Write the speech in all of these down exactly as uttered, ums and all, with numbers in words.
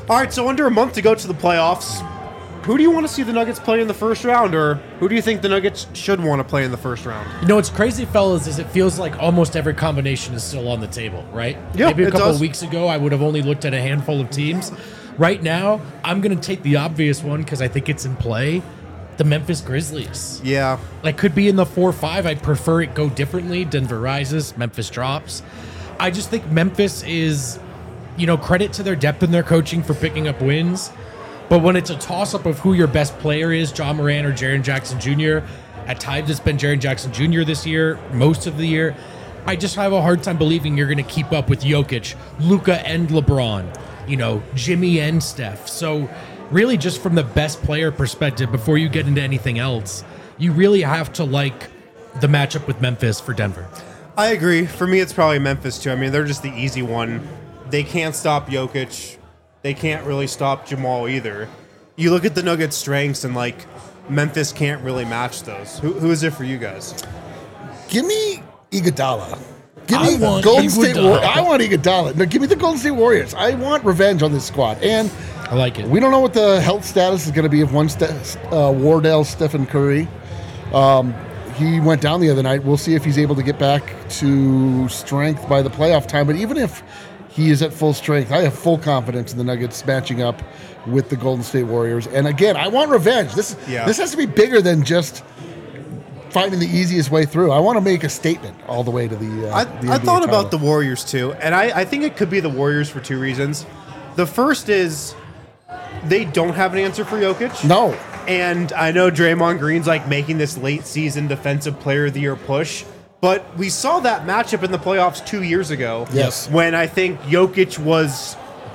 All right, so under a month to go to the playoffs, who do you want to see the Nuggets play in the first round, or who do you think the Nuggets should want to play in the first round? You know what's crazy, fellas, is it feels like almost every combination is still on the table, right? Yeah, Maybe a it couple does. of weeks ago, I would have only looked at a handful of teams. Right now, I'm going to take the obvious one because I think it's in play. The Memphis Grizzlies. Yeah. Like, could be in the four five. I'd prefer it go differently. Denver rises, Memphis drops. I just think Memphis is, you know, credit to their depth and their coaching for picking up wins. But when it's a toss-up of who your best player is, John Moran or Jaren Jackson Junior, at times it's been Jaren Jackson Junior this year, most of the year. I just have a hard time believing you're going to keep up with Jokic, Luka and LeBron, you know, Jimmy and Steph. So really just from the best player perspective, before you get into anything else, you really have to like the matchup with Memphis for Denver. I agree. For me, it's probably Memphis, too. I mean, they're just the easy one. They can't stop Jokic. They can't really stop Jamal either. You look at the Nuggets' strengths, and, like, Memphis can't really match those. Who, who is it for you guys? Give me Iguodala. Give I me want Golden State Iguodala. Warriors. I want Iguodala. No, give me the Golden State Warriors. I want revenge on this squad. And I like it. we don't know what the health status is going to be of one Ste- uh, Wardell Stephen Curry. Um, he went down the other night. We'll see if he's able to get back to strength by the playoff time. But even if he is at full strength, I have full confidence in the Nuggets matching up with the Golden State Warriors. And again, I want revenge. This Yeah. this has to be bigger than just finding the easiest way through. I want to make a statement all the way to the. Uh, I, the I N B A thought about the title. Warriors, too, and I, I think it could be the Warriors for two reasons. The first is they don't have an answer for Jokic. No. And I know Draymond Green's like making this late season defensive player of the year push, but we saw that matchup in the playoffs two years ago. Yes. When I think Jokic was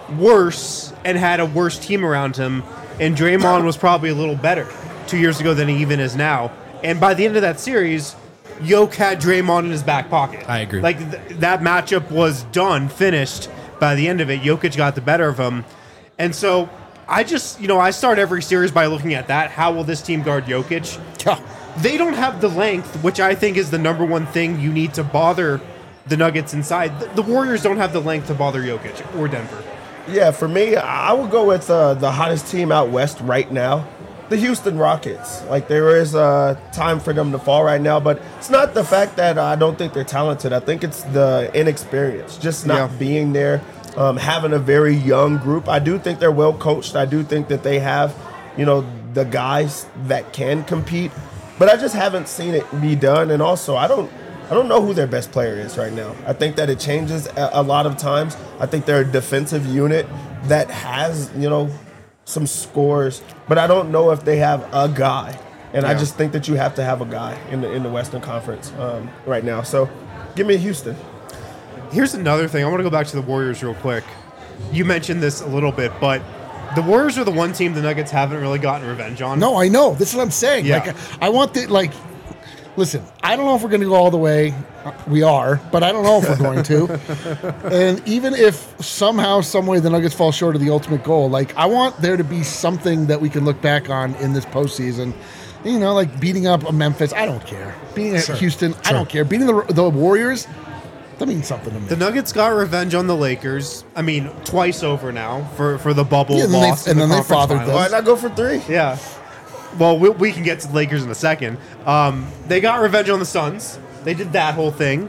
worse and had a worse team around him, and Draymond was probably a little better two years ago than he even is now. And by the end of that series, Jokic had Draymond in his back pocket. I agree. Like th- that matchup was done, finished by the end of it. Jokic got the better of him. And so I just, you know, I start every series by looking at that. How will this team guard Jokic? Yeah. They don't have the length, which I think is the number one thing you need to bother the Nuggets inside. The, the Warriors don't have the length to bother Jokic or Denver. Yeah, for me, I would go with uh, the hottest team out west right now, the Houston Rockets. Like, there is uh, time for them to fall right now, but it's not the fact that I don't think they're talented. I think it's the inexperience, just not Yeah. being there, um, having a very young group. I do think they're well coached. I do think that they have, you know, the guys that can compete, but I just haven't seen it be done. And also, I don't I don't know who their best player is right now. I think that it changes a, a lot of times. I think they're a defensive unit that has, you know, some scores, but I don't know if they have a guy. And I Yeah. just think that you have to have a guy in the in the Western Conference um, right now. So give me Houston. Here's another thing. I want to go back to the Warriors real quick. You mentioned this a little bit, but the Warriors are the one team the Nuggets haven't really gotten revenge on. No, I know. This is what I'm saying. Yeah. Like, I want the, like, listen, I don't know if we're going to go all the way. We are, but I don't know if we're going to. And even if somehow, some way the Nuggets fall short of the ultimate goal, like, I want there to be something that we can look back on in this postseason. You know, like beating up a Memphis, I don't care. Beating Sure. Houston, I Sure. don't care. Beating the, the Warriors, that means something to me. The Nuggets got revenge on the Lakers. I mean, twice over now for, for the bubble Yeah, and then they- loss. and in the then they conference fathered finals. Why not go for three? Yeah. Well, we, we can get to the Lakers in a second. Um, they got revenge on the Suns. They did that whole thing.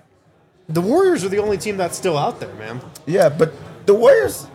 The Warriors are the only team that's still out there, man. Yeah, but the Warriors,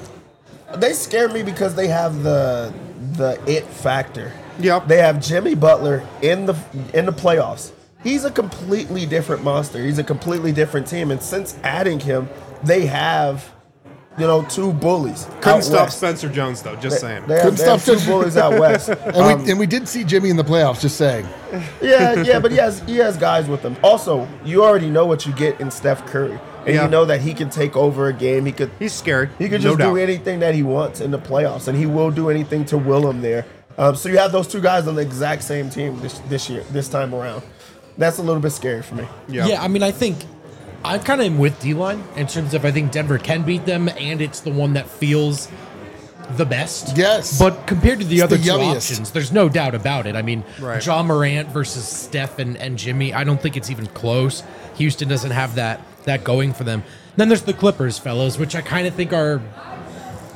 they scare me because they have the the it factor. Yep. They have Jimmy Butler in the in the playoffs. He's a completely different monster. He's a completely different team. And since adding him, they have, you know, two bullies. Couldn't out stop west. Spencer Jones, though, just saying. They have, Couldn't they have stop two Spencer- bullies out west. and, Um, we, and we did see Jimmy in the playoffs, just saying. yeah, yeah, but he has he has guys with him. Also, you already know what you get in Steph Curry, and Yeah. you know that he can take over a game. He could He's scared. he could no just doubt. do anything that he wants in the playoffs, and he will do anything to will him there. Um, so you have those two guys on the exact same team this this year, this time around. That's a little bit scary for me. Yeah. Yeah, I mean, I think I kind of am with D-Line in terms of I think Denver can beat them, and it's the one that feels the best. Yes. But compared to the It's other the two yummiest. options, there's no doubt about it. I mean, Right. John Morant versus Steph and, and Jimmy, I don't think it's even close. Houston doesn't have that that going for them. Then there's the Clippers, fellas, which I kind of think are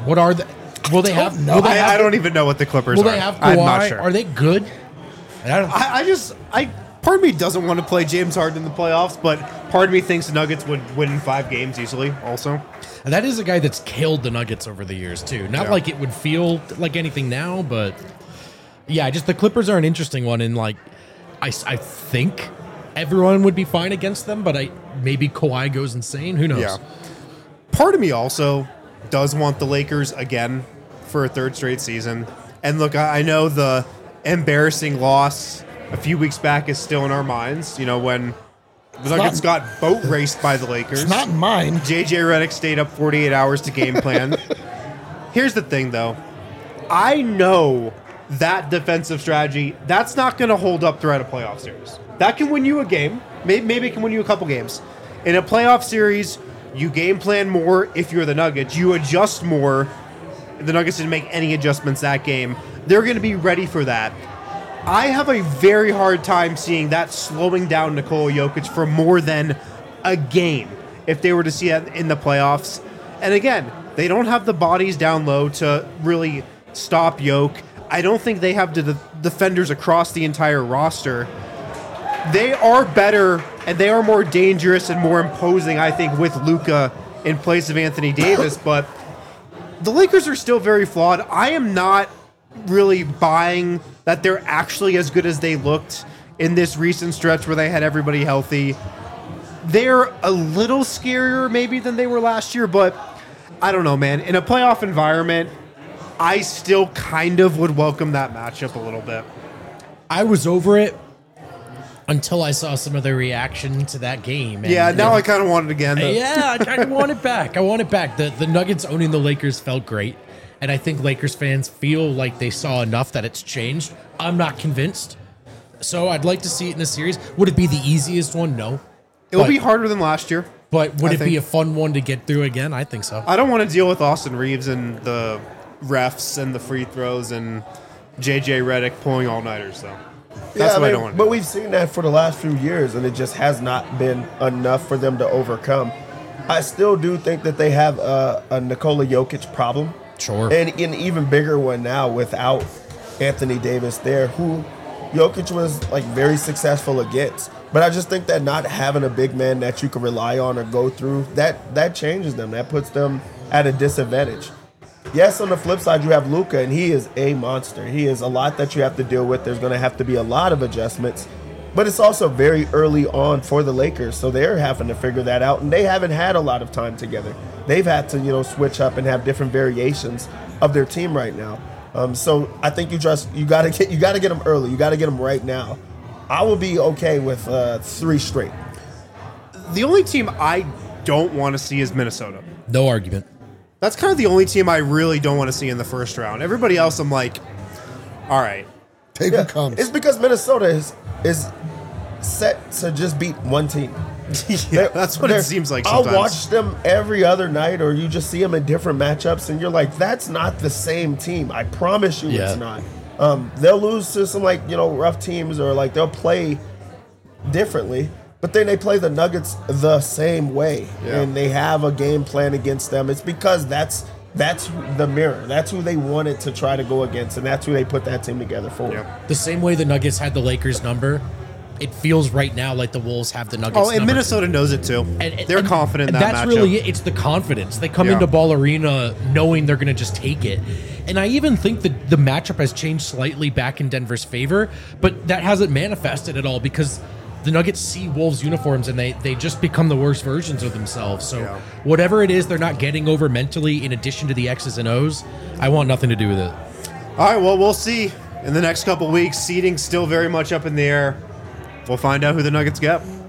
What are the? Will they have? know. Will they I, have I don't even know what the Clippers Will are. they have I'm Kawhi? not sure. Are they good? I don't. I, I just, I part of me doesn't want to play James Harden in the playoffs, but part of me thinks the Nuggets would win five games easily. Also, And that is a guy that's killed the Nuggets over the years too. Not Yeah. like it would feel like anything now, but yeah, just the Clippers are an interesting one. And like, I, I think everyone would be fine against them, but I maybe Kawhi goes insane. Who knows? yeah. Part of me also does want the Lakers again for a third straight season. And look, I, I know the embarrassing loss a few weeks back is still in our minds. You know, when the Nuggets got boat raced by the Lakers. It's not mine. J J Redick stayed up forty-eight hours to game plan. Here's the thing, though. I know that defensive strategy, that's not going to hold up throughout a playoff series. That can win you a game. Maybe, maybe it can win you a couple games. In a playoff series, you game plan more if you're the Nuggets. You adjust more. The Nuggets didn't make any adjustments that game. They're going to be ready for that. I have a very hard time seeing that slowing down Nikola Jokic for more than a game if they were to see it in the playoffs. And again, they don't have the bodies down low to really stop Jokic. I don't think they have the de- defenders across the entire roster. They are better and they are more dangerous and more imposing, I think, with Luka in place of Anthony Davis. But the Lakers are still very flawed. I am not really buying that they're actually as good as they looked in this recent stretch where they had everybody healthy. They're a little scarier maybe than they were last year, but I don't know, man. In a playoff environment, I still kind of would welcome that matchup a little bit. I was over it until I saw some of the reaction to that game. And, Yeah, now I kind of want it again. though. yeah, I kind of want it back. I want it back. The the Nuggets owning the Lakers felt great, and I think Lakers fans feel like they saw enough that it's changed. I'm not convinced, so I'd like to see it in a series. Would it be the easiest one? No. It will But- be harder than last year. But would I it be think- a fun one to get through again? I think so. I don't want to deal with Austin Reeves and the refs and the free throws and J J Redick pulling all-nighters, though. That's yeah, what I, I mean, don't want to But do. we've seen that for the last few years, and it just has not been enough for them to overcome. I still do think that they have a, a Nikola Jokic problem. Sure. And an even bigger one now without Anthony Davis there, who Jokic was like very successful against. But I just think that not having a big man that you can rely on or go through, that that changes them. That puts them at a disadvantage. Yes, on the flip side, you have Luka, and he is a monster. He is a lot that you have to deal with. There's going to have to be a lot of adjustments. But it's also very early on for the Lakers, so they're having to figure that out, and they haven't had a lot of time together. They've had to, you know, switch up and have different variations of their team right now. Um, so I think you just you got to get you got to get them early. You got to get them right now. I will be okay with uh, three straight. The only team I don't want to see is Minnesota. No argument. That's kind of the only team I really don't want to see in the first round. Everybody else, I'm like, all right. Take Yeah, what comes. it's because Minnesota is is set to just beat one team. Yeah, that's what it They're- seems like sometimes. I'll watch them every other night, or you just see them in different matchups, and you're like, that's not the same team. I promise you Yeah. it's not. Um, they'll lose to some, like, you know, rough teams, or like they'll play differently, but then they play the Nuggets the same way, Yeah. and they have a game plan against them. It's because that's that's the mirror. That's who they wanted to try to go against, and that's who they put that team together for. Yeah. The same way the Nuggets had the Lakers number, it feels right now like the Wolves have the Nuggets Oh, and number. Minnesota knows it too. And- and- They're and- confident in and that that's matchup. really it. It's the confidence. They come Yeah. into Ball Arena knowing they're going to just take it. And I even think that the matchup has changed slightly back in Denver's favor, but that hasn't manifested at all because the Nuggets see Wolves uniforms and they, they just become the worst versions of themselves. So Yeah. whatever it is they're not getting over mentally in addition to the X's and O's, I want nothing to do with it. All right, well, we'll see in the next couple weeks. Seeding's still very much up in the air. We'll find out who the Nuggets get.